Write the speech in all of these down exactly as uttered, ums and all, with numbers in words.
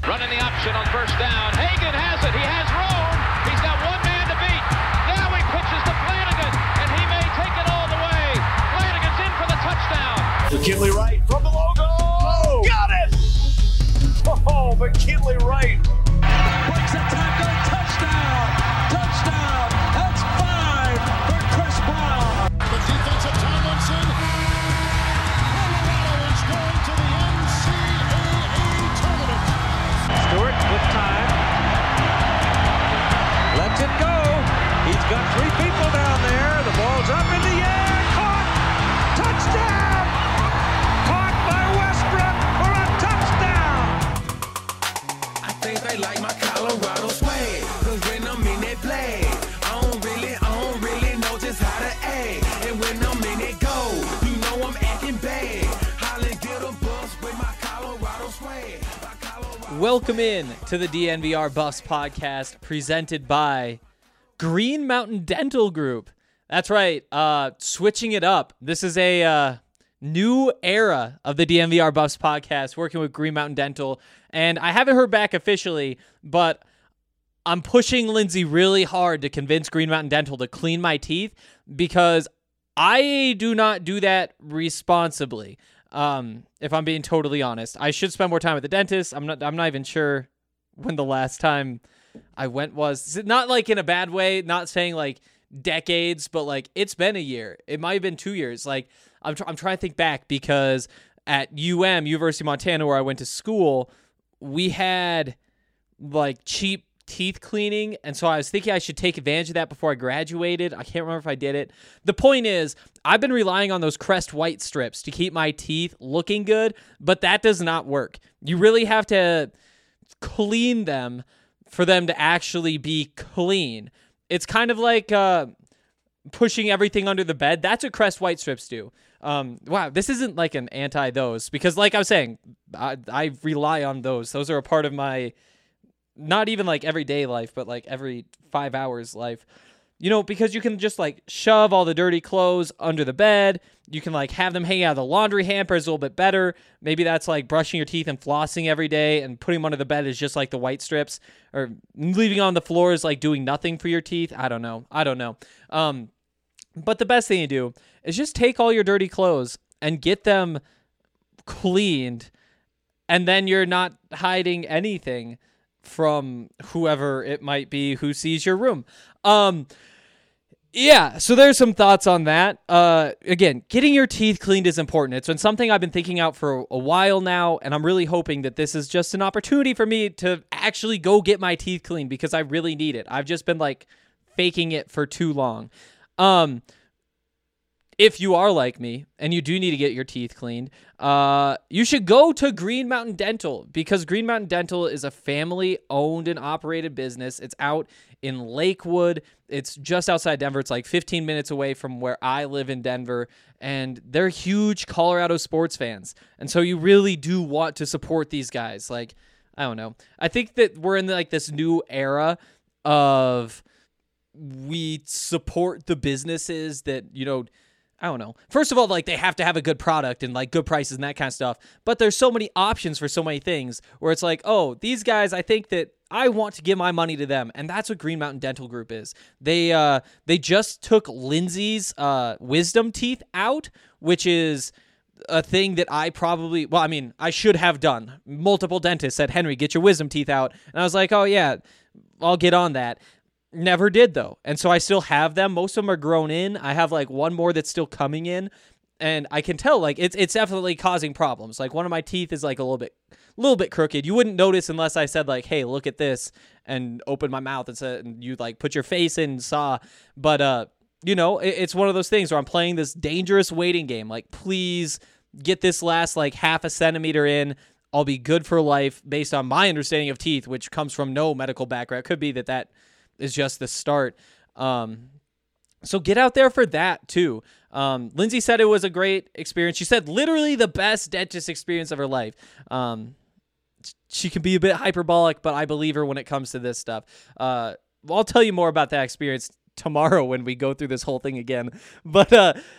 Running the option on first down. Hagan has it. He has room. He's got one man to beat. Now he pitches to Flanagan, and he may take it all the way. Flanagan's in for the touchdown. McKinley Wright from the logo. Oh, got it! Oh, McKinley Wright. Breaks a tackle. Touchdown. Touchdown. That's five for Chris Brown. The defensive Tomlinson. Colorado is going to the N C double A tournament. Stewart with time. Lets it go. He's got three people down there. The ball's up in the air. Caught. Touchdown. Caught by Westbrook for a touchdown. I think they like my Colorado swag. Cause when I'm in that play, I don't really, I don't really know just how to act. And when I'm in it go, you know I'm acting bad. Holly get a bus with my Colorado swag. My Colorado Welcome in to the D N V R Buffs podcast presented by Green Mountain Dental Group. That's right, uh, switching it up. This is a uh, new era of the D N V R Buffs podcast, working with Green Mountain Dental. And I haven't heard back officially, but I'm pushing Lindsay really hard to convince Green Mountain Dental to clean my teeth because I do not do that responsibly. Um, if I'm being totally honest, I should spend more time at the dentist. I'm not, I'm not even sure when the last time I went was. Not like in a bad way, not saying like decades, but like it's been a year. It might have been two years. Like I'm, tr- I'm trying to think back because at U M, University of Montana, where I went to school, we had like cheap teeth cleaning, and so I was thinking I should take advantage of that before I graduated. I can't remember if I did it. The point is, I've been relying on those Crest white strips to keep my teeth looking good, but that does not work. You really have to clean them for them to actually be clean. It's kind of like uh, pushing everything under the bed. That's what Crest white strips do. Um, wow, this isn't like an anti-those, because like I was saying, I, I rely on those. Those are a part of my not even like everyday life, but like every five hours life, you know, because you can just like shove all the dirty clothes under the bed. You can like have them hang out of the laundry hampers a little bit better. Maybe that's like brushing your teeth and flossing every day, and putting them under the bed is just like the white strips, or leaving on the floor is like doing nothing for your teeth. I don't know. I don't know. Um, but the best thing to do is just take all your dirty clothes and get them cleaned. And then you're not hiding anything from whoever it might be who sees your room. Um, yeah, so there's some thoughts on that. Uh, again, getting your teeth cleaned is important. It's been something I've been thinking out for a while now, and I'm really hoping that this is just an opportunity for me to actually go get my teeth cleaned, because I really need it. I've just been like faking it for too long. Um, If you are like me and you do need to get your teeth cleaned, uh, you should go to Green Mountain Dental, because Green Mountain Dental is a family-owned and operated business. It's out in Lakewood. It's just outside Denver. It's like fifteen minutes away from where I live in Denver, and they're huge Colorado sports fans. And so you really do want to support these guys. Like, I don't know. I think that we're in like this new era of we support the businesses that, you know, I don't know. First of all, like they have to have a good product and like good prices and that kind of stuff. But there's so many options for so many things where it's like, oh, these guys, I think that I want to give my money to them. And that's what Green Mountain Dental Group is. They uh, they just took Lindsay's uh, wisdom teeth out, which is a thing that I probably, well, I mean, I should have done. Multiple dentists said, Henry, get your wisdom teeth out. And I was like, oh yeah, I'll get on that. Never did though. And so I still have them. Most of them are grown in. I have like one more that's still coming in, and I can tell like it's it's definitely causing problems. Like one of my teeth is like a little bit a little bit crooked. You wouldn't notice unless I said like, "Hey, look at this," and open my mouth and said, and you like put your face in and saw. But uh, you know, it, it's one of those things where I'm playing this dangerous waiting game. Like, please get this last like half a centimeter in. I'll be good for life based on my understanding of teeth, which comes from no medical background. It could be that that is just the start. Um, so get out there for that too. Um, Lindsay said it was a great experience. She said literally the best dentist experience of her life. Um, she can be a bit hyperbolic, but I believe her when it comes to this stuff. Uh, I'll tell you more about that experience tomorrow when we go through this whole thing again. But uh,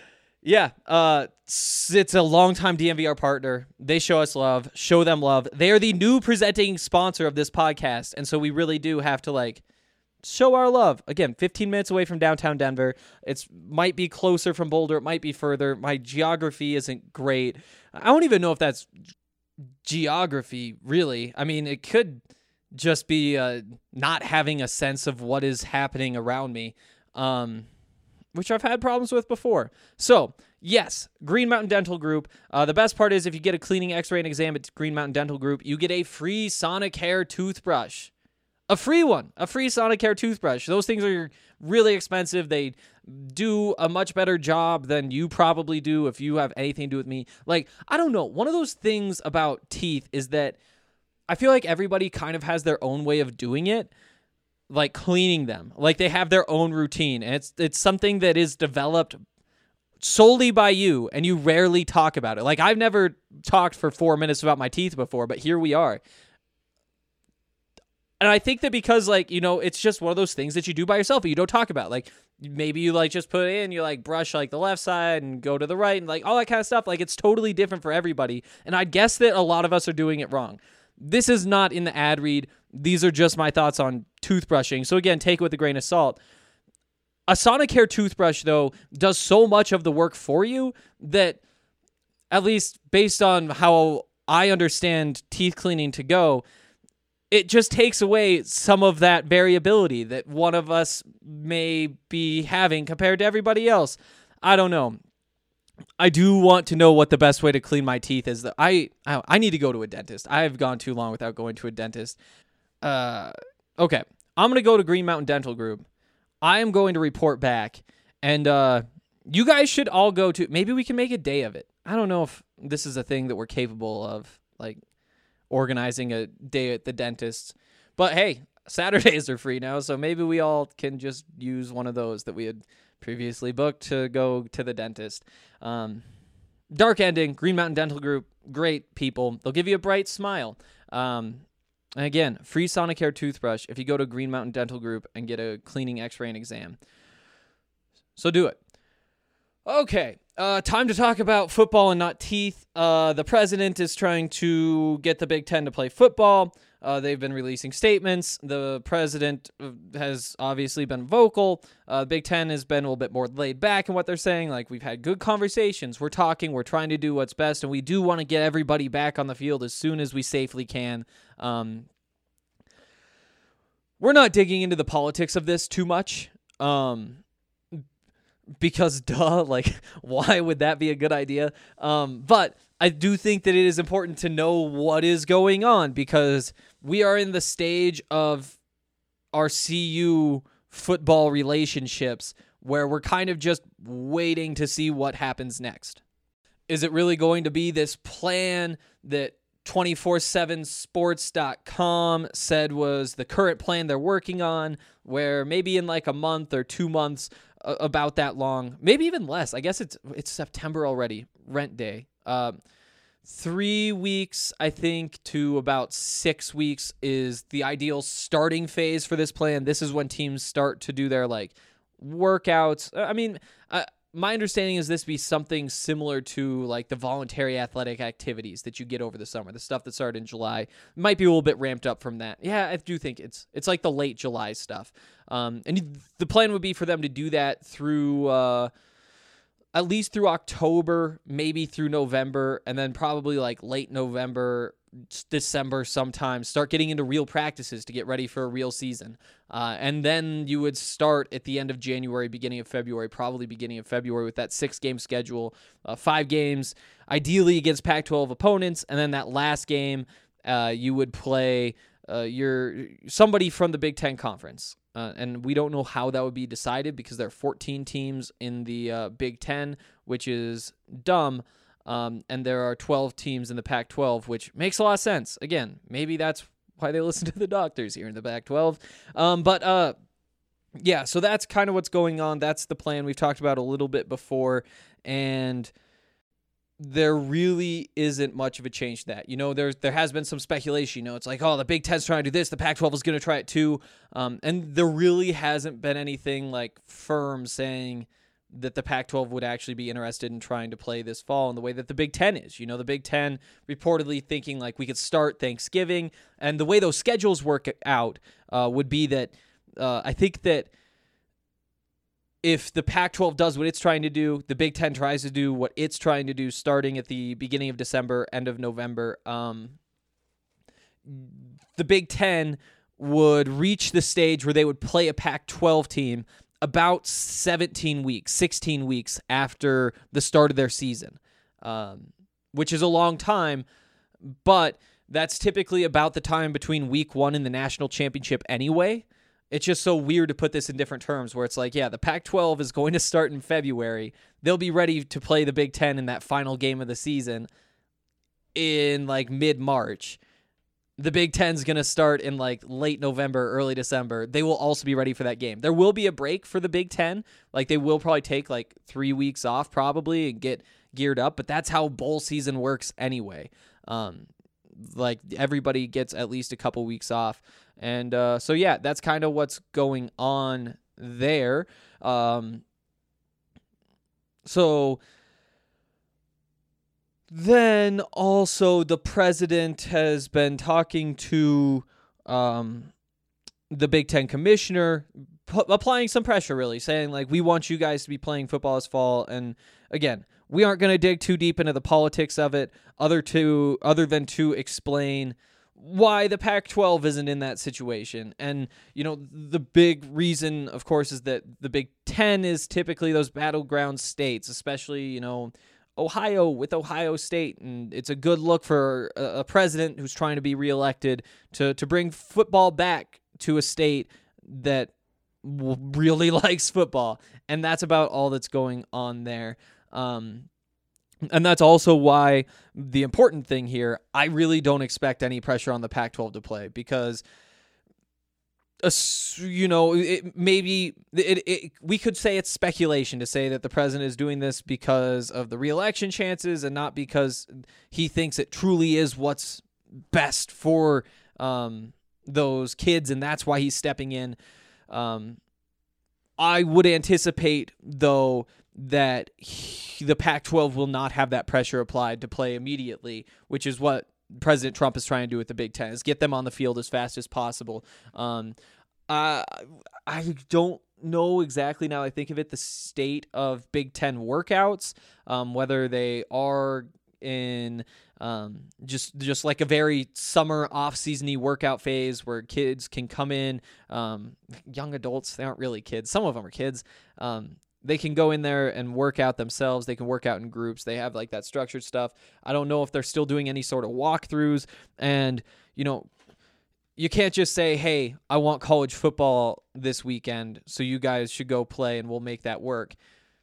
Yeah, uh, it's, it's a longtime D N V R partner. They show us love, show them love. They are the new presenting sponsor of this podcast, and so we really do have to, like, show our love. Again, fifteen minutes away from downtown Denver. It's might be closer from Boulder. It might be further. My geography isn't great. I don't even know if that's geography, really. I mean, it could just be uh, not having a sense of what is happening around me, um, which I've had problems with before. So, yes, Green Mountain Dental Group. Uh, the best part is if you get a cleaning, x-ray, and exam at Green Mountain Dental Group, you get a free Sonicare toothbrush. A free one, a free Sonicare toothbrush. Those things are really expensive. They do a much better job than you probably do if you have anything to do with me. Like, I don't know. One of those things about teeth is that I feel like everybody kind of has their own way of doing it, like cleaning them. Like they have their own routine. And it's it's something that is developed solely by you, and you rarely talk about it. Like I've never talked for four minutes about my teeth before, but here we are. And I think that because, like, you know, it's just one of those things that you do by yourself, but you don't talk about. Like, maybe you, like, just put it in, you, like, brush, like, the left side and go to the right and, like, all that kind of stuff. Like, it's totally different for everybody. And I guess that a lot of us are doing it wrong. This is not in the ad read. These are just my thoughts on toothbrushing. So, again, take it with a grain of salt. A Sonicare toothbrush, though, does so much of the work for you that, at least based on how I understand teeth cleaning to go, it just takes away some of that variability that one of us may be having compared to everybody else. I don't know. I do want to know what the best way to clean my teeth is. That I I need to go to a dentist. I have gone too long without going to a dentist. Uh, okay, I'm going to go to Green Mountain Dental Group. I am going to report back, and uh, you guys should all go to. Maybe we can make a day of it. I don't know if this is a thing that we're capable of, like, organizing a day at the dentist. But hey, Saturdays are free now, so maybe we all can just use one of those that we had previously booked to go to the dentist. Um, dark ending, Green Mountain Dental Group, great people. They'll give you a bright smile. Um, and again, free Sonicare toothbrush if you go to Green Mountain Dental Group and get a cleaning, x-ray, and exam. So do it. Okay, uh, time to talk about football and not teeth. Uh, the president is trying to get the Big Ten to play football. Uh, they've been releasing statements. The president has obviously been vocal. Uh, Big Ten has been a little bit more laid back in what they're saying. Like, we've had good conversations. We're talking. We're trying to do what's best, and we do want to get everybody back on the field as soon as we safely can. Um, we're not digging into the politics of this too much. Um... Because, duh, like, why would that be a good idea? Um, but I do think that it is important to know what is going on, because we are in the stage of our C U football relationships where we're kind of just waiting to see what happens next. Is it really going to be this plan that two forty-seven sports dot com said was the current plan they're working on, where maybe in like a month or two months, uh, about that long, maybe even less. I guess it's it's September already, rent day. Um, three weeks, I think, to about six weeks is the ideal starting phase for this plan. This is when teams start to do their like workouts. I mean, uh, my understanding is this be something similar to like the voluntary athletic activities that you get over the summer, the stuff that started in July. It might be a little bit ramped up from that. Yeah, I do think it's it's like the late July stuff. Um, and the plan would be for them to do that through uh, at least through October, maybe through November, and then probably like late November, December sometime, start getting into real practices to get ready for a real season. Uh, and then you would start at the end of January, beginning of February, probably beginning of February with that six-game schedule, uh, five games, ideally against Pac twelve opponents, and then that last game uh, you would play uh, your somebody from the Big Ten Conference. Uh, and we don't know how that would be decided because there are fourteen teams in the uh, Big Ten, which is dumb. Um, and there are twelve teams in the Pac twelve, which makes a lot of sense. Again, maybe that's why they listen to the doctors here in the Pac twelve. Um, but uh, yeah, so that's kind of what's going on. That's the plan we've talked about a little bit before. And there really isn't much of a change to that. You know, there's, there has been some speculation. You know, it's like, oh, the Big Ten's trying to do this. The Pac twelve is going to try it too. Um, and there really hasn't been anything like firm saying that the Pac twelve would actually be interested in trying to play this fall in the way that the Big Ten is. You know, the Big Ten reportedly thinking like we could start Thanksgiving, and the way those schedules work out uh, would be that uh, I think that if the Pac twelve does what it's trying to do, the Big Ten tries to do what it's trying to do starting at the beginning of December, end of November. Um, the Big Ten would reach the stage where they would play a Pac twelve team about seventeen weeks, sixteen weeks after the start of their season, um, which is a long time, but that's typically about the time between week one and the national championship anyway. It's just so weird to put this in different terms where it's like, yeah, the Pac twelve is going to start in February. They'll be ready to play the Big Ten in that final game of the season in like mid-March. The Big Ten's going to start in like late November, early December. They will also be ready for that game. There will be a break for the Big Ten. Like they will probably take like three weeks off probably and get geared up, but that's how bowl season works anyway. Um, like everybody gets at least a couple weeks off. And uh, so, yeah, that's kind of what's going on there. Um, so... Then also the president has been talking to um, the Big Ten commissioner, p- applying some pressure really, saying like, we want you guys to be playing football this fall. And again, we aren't going to dig too deep into the politics of it other to other than to explain why the Pac twelve isn't in that situation. And, you know, the big reason, of course, is that the Big Ten is typically those battleground states, especially, you know, Ohio with Ohio State, and it's a good look for a, a president who's trying to be reelected to to bring football back to a state that w- really likes football, and that's about all that's going on there. Um, and that's also why the important thing here, I really don't expect any pressure on the Pac twelve to play because, uh, you know, it, maybe it, it, we could say it's speculation to say that the president is doing this because of the re-election chances and not because he thinks it truly is what's best for um, those kids, and that's why he's stepping in. Um, I would anticipate, though, that he, the Pac twelve will not have that pressure applied to play immediately, which is what President Trump is trying to do with the Big Ten, is get them on the field as fast as possible. Um, uh, I don't know exactly, now I think of it, the state of Big Ten workouts, um, whether they are in um, just just like a very summer off-season-y workout phase where kids can come in, um, young adults, they aren't really kids, some of them are kids, um, they can go in there and work out themselves. They can work out in groups. They have like that structured stuff. I don't know if they're still doing any sort of walkthroughs. And, you know, you can't just say, hey, I want college football this weekend, so you guys should go play and we'll make that work.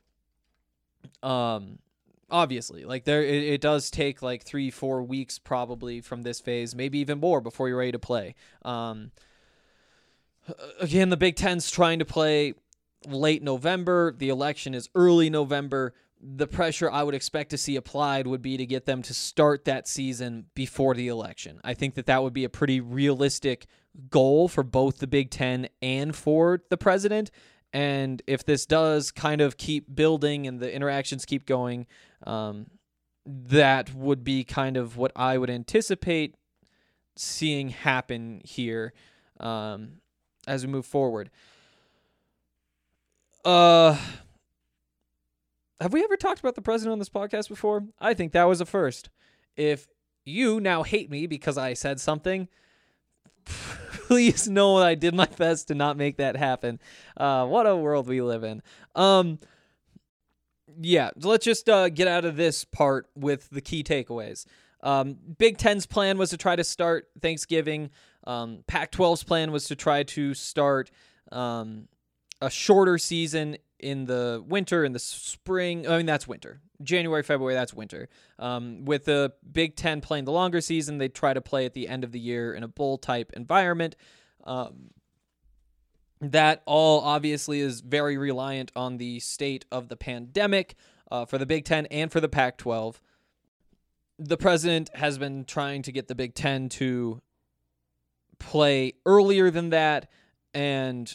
Um, obviously, like there, it, it does take like three, four weeks probably from this phase, maybe even more before you're ready to play. Um, again, the Big Ten's trying to play late November. The election is early November. The pressure I would expect to see applied would be to get them to start that season before the election. I think that that would be a pretty realistic goal for both the Big Ten and for the president. And if this does kind of keep building and the interactions keep going, um, that would be kind of what I would anticipate seeing happen here um, as we move forward. Uh, have we ever talked about the president on this podcast before? I think that was a first. If you now hate me because I said something, please know I did my best to not make that happen. Uh, what a world we live in. Um, yeah, let's just uh, get out of this part with the key takeaways. Um, Big Ten's plan was to try to start Thanksgiving. Um, Pac twelve's plan was to try to start um, a shorter season in the winter, in the spring. I mean, that's winter. January, February, that's winter. Um, with the Big Ten playing the longer season, they try to play at the end of the year in a bowl-type environment. Um, that all obviously is very reliant on the state of the pandemic uh, for the Big Ten and for the Pac twelve. The president has been trying to get the Big Ten to play earlier than that, and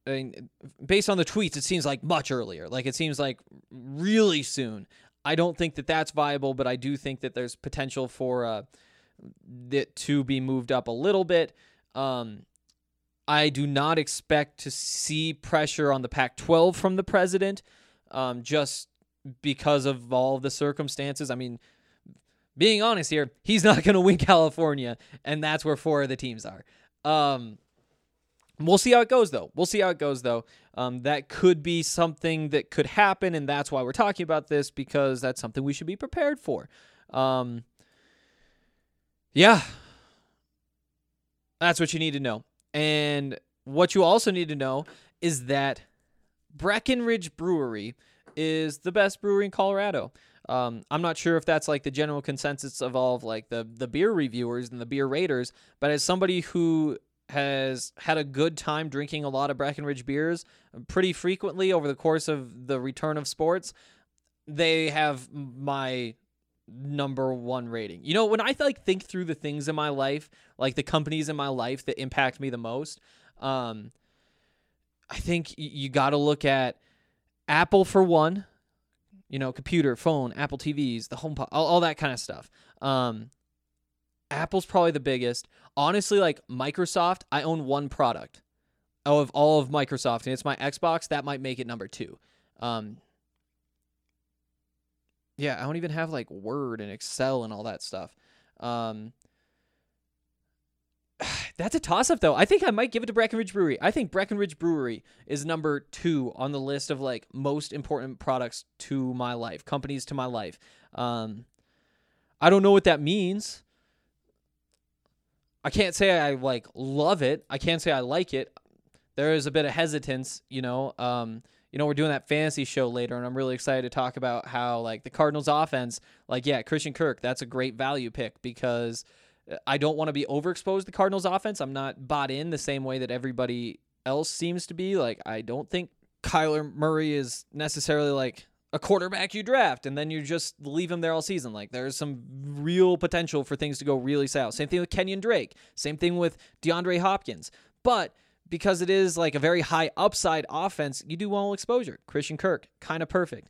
I mean, based on the tweets, it seems like much earlier. Like it seems like really soon. I don't think that that's viable, but I do think that there's potential for uh, it to be moved up a little bit. Um, I do not expect to see pressure on the Pac twelve from the president, um, just because of all the circumstances. I mean, being honest here, he's not going to win California, and that's where four of the teams are. Um, we'll see how it goes, though. We'll see how it goes, though. Um, that could be something that could happen, and that's why we're talking about this, because that's something we should be prepared for. Um, yeah. That's what you need to know. And what you also need to know is that Breckenridge Brewery is the best brewery in Colorado. Um, I'm not sure if that's like the general consensus of all of like the, the beer reviewers and the beer raters, but as somebody who has had a good time drinking a lot of Breckenridge beers pretty frequently over the course of the return of sports, they have my number one rating. You know, when I like think through the things in my life, like the companies in my life that impact me the most, um, I think you got to look at Apple for one. You know, computer, phone, Apple T Vs, the HomePod, all, all that kind of stuff. Um, Apple's probably the biggest. Honestly, like Microsoft, I own one product of all of Microsoft, and it's my Xbox. That might make it number two. Um, yeah, I don't even have like Word and Excel and all that stuff. Um, that's a toss-up, though. I think I might give it to Breckenridge Brewery. I think Breckenridge Brewery is number two on the list of like most important products to my life, companies to my life. Um, I don't know what that means. I can't say I like love it. I can't say I like it. There is a bit of hesitance, you know. Um, you know, we're doing that fantasy show later, and I'm really excited to talk about how like the Cardinals offense, like yeah, Christian Kirk, that's a great value pick because I don't want to be overexposed to the Cardinals offense. I'm not bought in the same way that everybody else seems to be. Like, I don't think Kyler Murray is necessarily like a quarterback you draft and then you just leave him there all season. Like, there's some real potential for things to go really south. Same thing with Kenyon Drake. Same thing with DeAndre Hopkins. But because it is like a very high upside offense, you do want exposure. Christian Kirk, kind of perfect.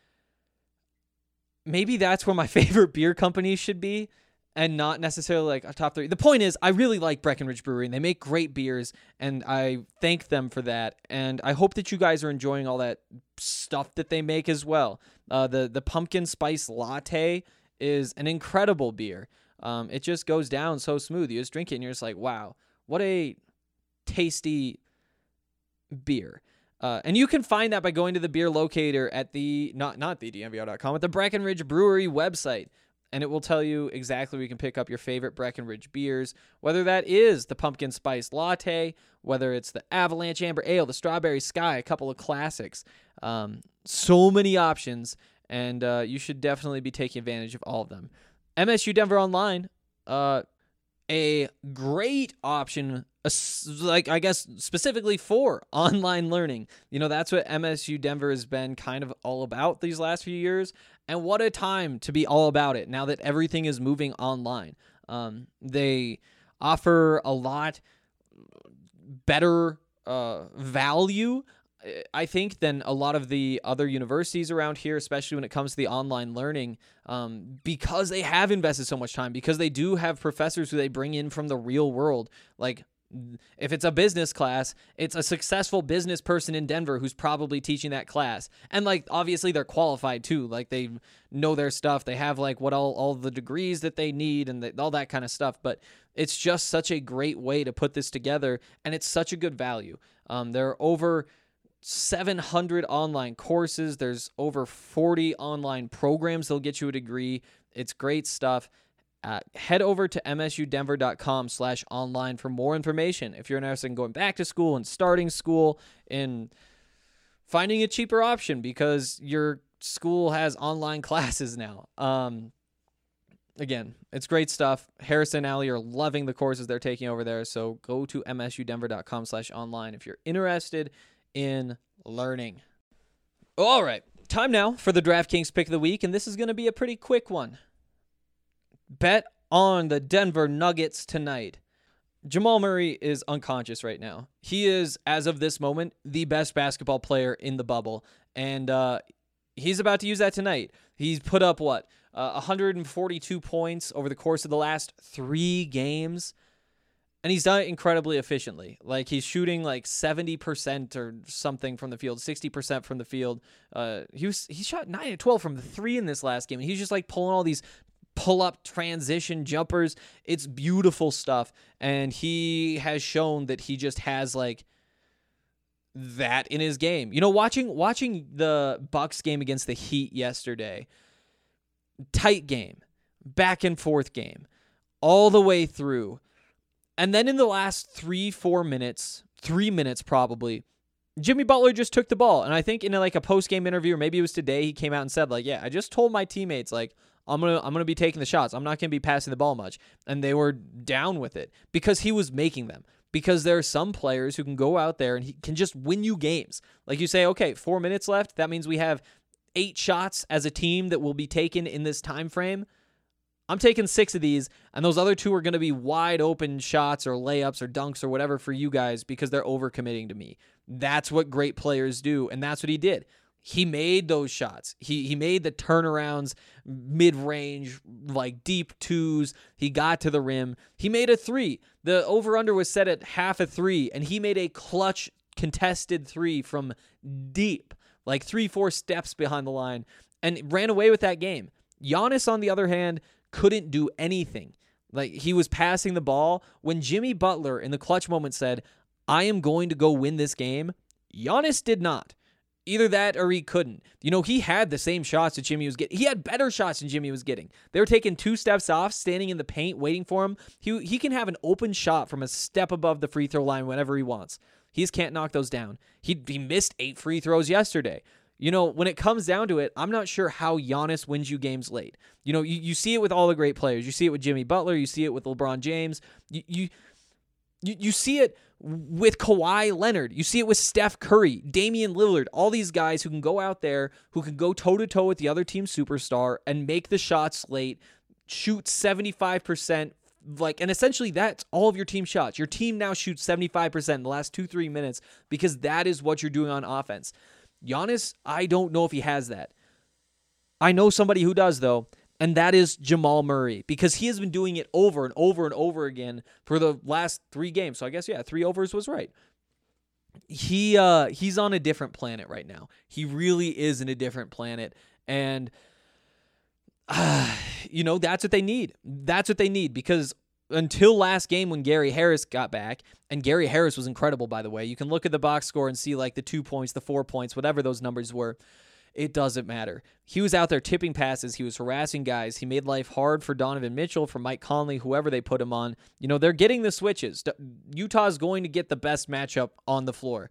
Maybe that's where my favorite beer company should be, and not necessarily like a top three. The point is, I really like Breckenridge Brewery, and they make great beers, and I thank them for that. And I hope that you guys are enjoying all that stuff that they make as well. Uh, the the pumpkin spice latte is an incredible beer. Um, it just goes down so smooth. You just drink it, and you're just like, wow, what a tasty beer. Uh, and you can find that by going to the beer locator at the, not not the D N V R dot com, at the Breckenridge Brewery website. And it will tell you exactly where you can pick up your favorite Breckenridge beers, whether that is the pumpkin spice latte, whether it's the Avalanche Amber Ale, the Strawberry Sky, a couple of classics. Um, so many options, and uh, you should definitely be taking advantage of all of them. M S U Denver Online, uh, a great option, uh, like I guess specifically for online learning. You know, that's what M S U Denver has been kind of all about these last few years. And what a time to be all about it now that everything is moving online. Um, they offer a lot better uh, value, I think, than a lot of the other universities around here, especially when it comes to the online learning, um, because they have invested so much time, because they do have professors who they bring in from the real world. Like, if it's a business class, it's a successful business person in Denver who's probably teaching that class. And like, obviously they're qualified too. Like, they know their stuff. They have like what all, all the degrees that they need and the, all that kind of stuff. But it's just such a great way to put this together. And it's such a good value. Um, there are over seven hundred online courses. There's over forty online programs that'll get you a degree. It's great stuff. Uh, head over to M S U Denver dot com slash online for more information. If you're interested in going back to school and starting school and finding a cheaper option because your school has online classes now. Um, again, it's great stuff. Harrison and Allie are loving the courses they're taking over there. So go to M S U Denver dot com slash online if you're interested in learning. All right, time now for the DraftKings pick of the week, and this is going to be a pretty quick one. Bet on the Denver Nuggets tonight. Jamal Murray is unconscious right now. He is, as of this moment, the best basketball player in the bubble. And uh, he's about to use that tonight. He's put up, what, uh, one hundred forty-two points over the course of the last three games. And he's done it incredibly efficiently. Like, he's shooting like seventy percent or something from the field, sixty percent from the field. Uh, he was he shot nine and twelve from the three in this last game. And he's just like pulling all these pull-up transition jumpers. It's beautiful stuff. And he has shown that he just has like that in his game. You know, watching watching the Bucks game against the Heat yesterday, tight game, back and forth game, all the way through. And then in the last three, four minutes, three minutes probably, Jimmy Butler just took the ball. And I think in like a post-game interview, or maybe it was today, he came out and said, like, yeah, I just told my teammates, like, I'm gonna I'm gonna be taking the shots. I'm not gonna be passing the ball much. And they were down with it because he was making them. Because there are some players who can go out there and he can just win you games. Like you say, okay, four minutes left. That means we have eight shots as a team that will be taken in this time frame. I'm taking six of these, and those other two are going to be wide open shots or layups or dunks or whatever for you guys because they're overcommitting to me. That's what great players do, and that's what he did. He made those shots. He he made the turnarounds, mid-range, like deep twos. He got to the rim. He made a three. The over-under was set at half a three, and he made a clutch contested three from deep, like three, four steps behind the line, and ran away with that game. Giannis, on the other hand, couldn't do anything. Like, he was passing the ball. When Jimmy Butler in the clutch moment said, I am going to go win this game, Giannis did not. Either that or he couldn't. You know, he had the same shots that Jimmy was getting. He had better shots than Jimmy was getting. They were taking two steps off, standing in the paint, waiting for him. He, he can have an open shot from a step above the free throw line whenever he wants. He just can't knock those down. He, he missed eight free throws yesterday. You know, when it comes down to it, I'm not sure how Giannis wins you games late. You know, you, you see it with all the great players. You see it with Jimmy Butler. You see it with LeBron James. You you you, you see it with Kawhi Leonard. You see it with Steph Curry, Damian Lillard, all these guys who can go out there, who can go toe-to-toe with the other team's superstar and make the shots late, shoot seventy-five percent, like, and essentially that's all of your team shots. Your team now shoots seventy-five percent in the last two, three minutes because that is what you're doing on offense. Giannis, I don't know if he has that. I know somebody who does, though, and that is Jamal Murray, because he has been doing it over and over and over again for the last three games. So I guess, yeah, three overs was right. He uh, he's on a different planet right now. He really is in a different planet, and uh, you know, that's what they need. That's what they need, because until last game when Gary Harris got back, and Gary Harris was incredible, by the way. You can look at the box score and see like the two points, the four points, whatever those numbers were. It doesn't matter. He was out there tipping passes. He was harassing guys. He made life hard for Donovan Mitchell, for Mike Conley, whoever they put him on. You know, they're getting the switches. Utah's going to get the best matchup on the floor.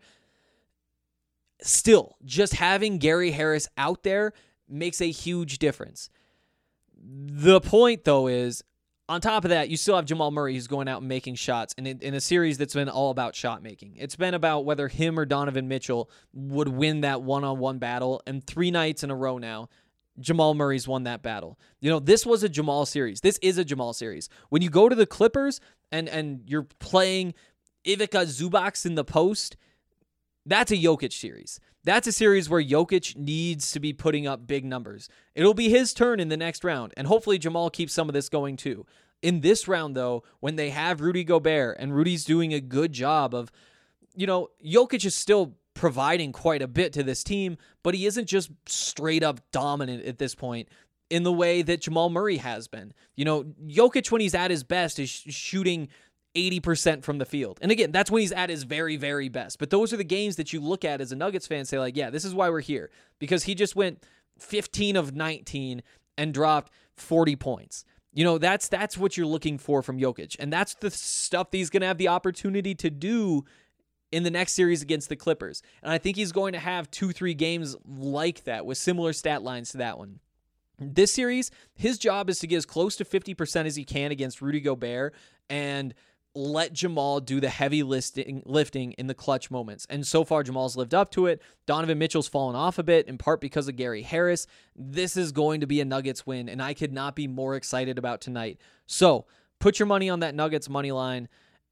Still, just having Gary Harris out there makes a huge difference. The point, though, is on top of that, you still have Jamal Murray who's going out and making shots in, in a series that's been all about shot making. It's been about whether him or Donovan Mitchell would win that one-on-one battle, and three nights in a row now, Jamal Murray's won that battle. You know, this was a Jamal series. This is a Jamal series. When you go to the Clippers and, and you're playing Ivica Zubac in the post, that's a Jokic series. That's a series where Jokic needs to be putting up big numbers. It'll be his turn in the next round, and hopefully Jamal keeps some of this going too. In this round, though, when they have Rudy Gobert, and Rudy's doing a good job of, you know, Jokic is still providing quite a bit to this team, but he isn't just straight up dominant at this point in the way that Jamal Murray has been. You know, Jokic, when he's at his best, is sh- shooting eighty percent from the field. And again, that's when he's at his very, very best. But those are the games that you look at as a Nuggets fan and say, like, yeah, this is why we're here. Because he just went fifteen of nineteen and dropped forty points. You know, that's that's what you're looking for from Jokic. And that's the stuff that he's going to have the opportunity to do in the next series against the Clippers. And I think he's going to have two, three games like that with similar stat lines to that one. This series, his job is to get as close to fifty percent as he can against Rudy Gobert and let Jamal do the heavy lifting, lifting in the clutch moments. And so far, Jamal's lived up to it. Donovan Mitchell's fallen off a bit, in part because of Gary Harris. This is going to be a Nuggets win, and I could not be more excited about tonight. So put your money on that Nuggets money line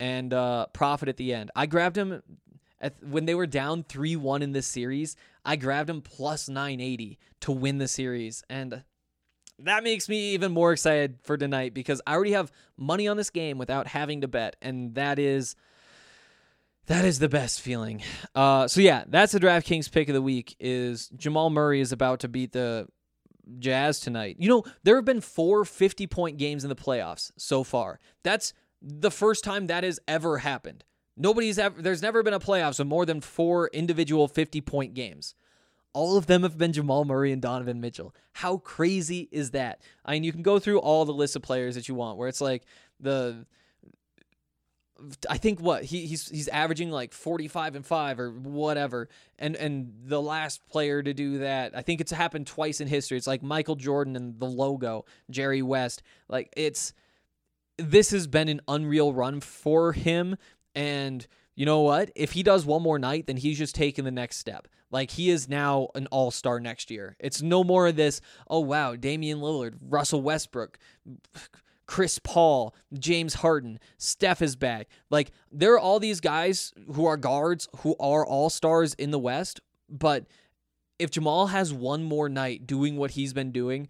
and uh, profit at the end. I grabbed him at, when they were down three one in this series. I grabbed him plus nine eighty to win the series, and that makes me even more excited for tonight because I already have money on this game without having to bet, and that is that is the best feeling. Uh, so yeah, that's the DraftKings pick of the week. Is Jamal Murray is about to beat the Jazz tonight. You know, there have been four fifty-point games in the playoffs so far. That's the first time that has ever happened. Nobody's ever, there's never been a playoffs with more than four individual fifty-point games. All of them have been Jamal Murray and Donovan Mitchell. How crazy is that? I mean, you can go through all the lists of players that you want, where it's like the, I think what he he's he's averaging like forty-five and five or whatever, and and the last player to do that, I think it's happened twice in history. It's like Michael Jordan and the logo, Jerry West. Like it's, this has been an unreal run for him, and you know what? If he does one more night, then he's just taking the next step. Like, he is now an all-star next year. It's no more of this, oh, wow, Damian Lillard, Russell Westbrook, Chris Paul, James Harden, Steph is back. Like, there are all these guys who are guards who are all-stars in the West, but if Jamal has one more night doing what he's been doing,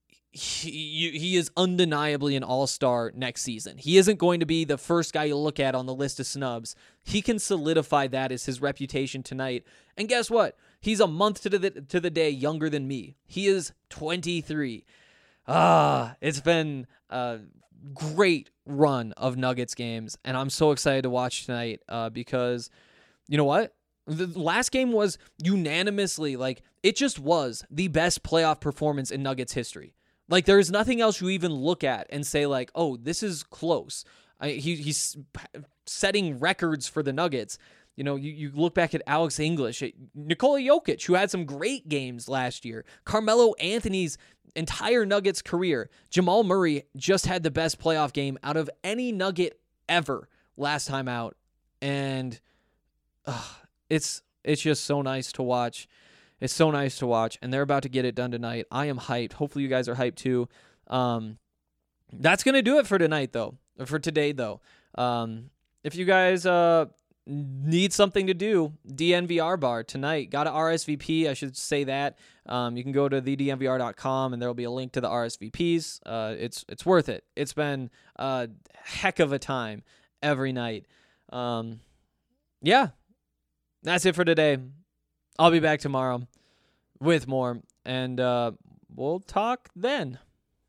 He, he is undeniably an all-star next season. He isn't going to be the first guy you look at on the list of snubs. He can solidify that as his reputation tonight. And guess what? He's a month to the to the day younger than me. He is twenty-three. Ah, it's been a great run of Nuggets games, and I'm so excited to watch tonight uh, because, you know what? The last game was unanimously, like, it just was the best playoff performance in Nuggets history. Like, there's nothing else you even look at and say, like, oh, this is close. I, he, he's setting records for the Nuggets. You know, you, you look back at Alex English, at Nikola Jokic, who had some great games last year, Carmelo Anthony's entire Nuggets career. Jamal Murray just had the best playoff game out of any Nugget ever last time out. And uh, it's it's just so nice to watch. It's so nice to watch, and they're about to get it done tonight. I am hyped. Hopefully you guys are hyped too. Um, that's going to do it for tonight, though, or for today, though. Um, if you guys uh, need something to do, D N V R bar tonight. Got to R S V P, I should say that. Um, you can go to the D N V R dot com, and there will be a link to the R S V Ps. Uh, it's it's worth it. It's been a heck of a time every night. Um, yeah, that's it for today. I'll be back tomorrow with more, and uh, we'll talk then.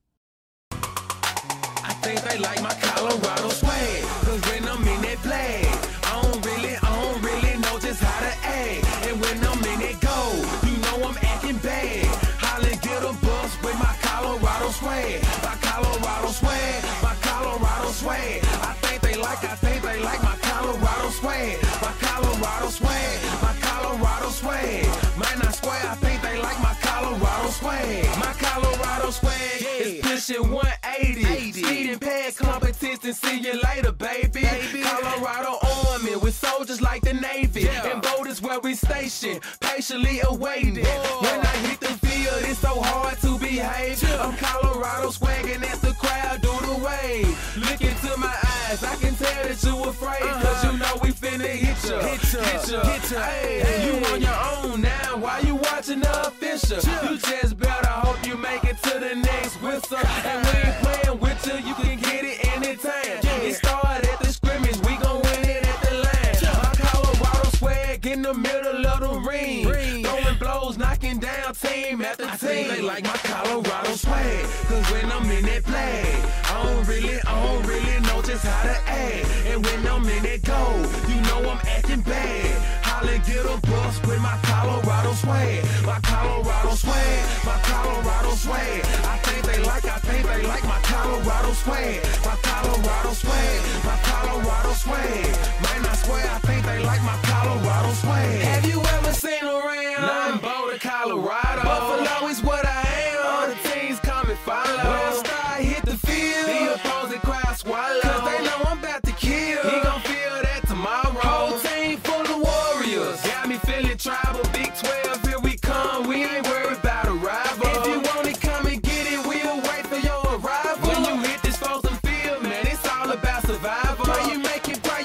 I think they like my Colorado swag, cause when I'm in that play, I don't really, I don't really know just how to act. And when I'm in that go, you know I'm acting bad. Holla, get a bus with my Colorado swag, my Colorado swag, my Colorado swag. I think they like, I think they like my Colorado swag, my Colorado swag, my Colorado swag. Might not square, I think they like my Colorado swag. My Colorado swag is pushing one eighty. Speed and pad competition, see you later, baby. baby. Colorado Army with soldiers like the Navy. Yeah. And boat is where we station, patiently awaiting. Whoa. When I hit the field, it's so hard to behave. Yeah. I'm Colorado swagging as the crowd do the wave. Look into my eyes, I can tell that you afraid. Uh-huh. Cause you know we finna hit ya, hit ya, hit ya, hit ya. Hey, hey. You on your own now, why you watching the official? Yeah. You just better hope you make it to the next whistle. And we ain't playing with you, you can get it anytime. Yeah. It started at the scrimmage, we gon' win it at the line. Yeah. My Colorado swag in the middle of the ring. ring. Throwing blows, knocking down team after team. I think they like my Colorado swag, cause when I'm in that play, I don't really, I don't really know just how to act. And when I'm in that go, you know I'm acting bad. Holla, get a bus with my Colorado swag, my Colorado swag, my Colorado swag. I think they like, I think they like my Colorado swag, my Colorado swag, my Colorado swag. Might not swear, I think they like my Colorado swag. Have you ever seen around? Nah, I'm Boulder, Colorado. Buffalo is what I am. All the teams come and follow. When I start hit the field, the opposing crowd swallow. Cause they know I'm about to kill. He gon' feel that tomorrow. Whole team full of warriors. Got me feeling tribal. Big twelve, here we come. We ain't worried about a rival. If you want it, come and get it. We'll wait for your arrival. When you hit this frozen field, man, it's all about survival. When you make it break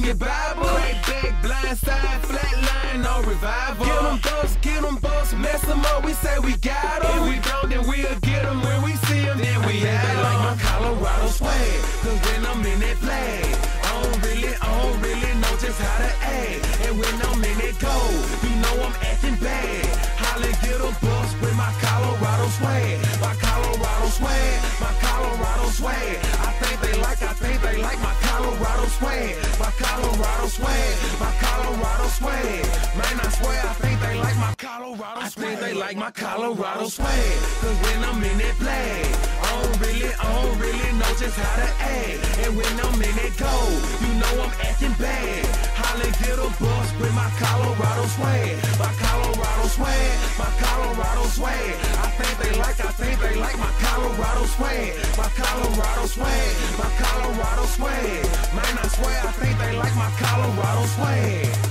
your Bible. Crack back, blind side, flat line, no revival. Get them bucks, get them bucks, mess them up, we say we got them. If we don't, then we'll get them when we see them, then we have them. Like my Colorado swag, cause when I'm in that flag, I don't really, I don't really know just how to act. And when I'm in that gold, you know I'm acting bad. Holly get a bus with my Colorado swag. My Colorado swag, my Colorado swag. I think they like, I think they like my Colorado swag. My Colorado swag, my Colorado swag. Man, I swear I think they like my Colorado swag. I think they like my Colorado swag. Cause when I'm in that flag, I don't really, I don't really know just how to act. And when I'm in that gold, you know I'm acting bad. Holly get a bus with my Colorado swag. My Colorado swag, my Colorado swag. I think they like, I think they like my Colorado swag. My Colorado swag, my Colorado swag. Man, I swear I think they like my Colorado swag.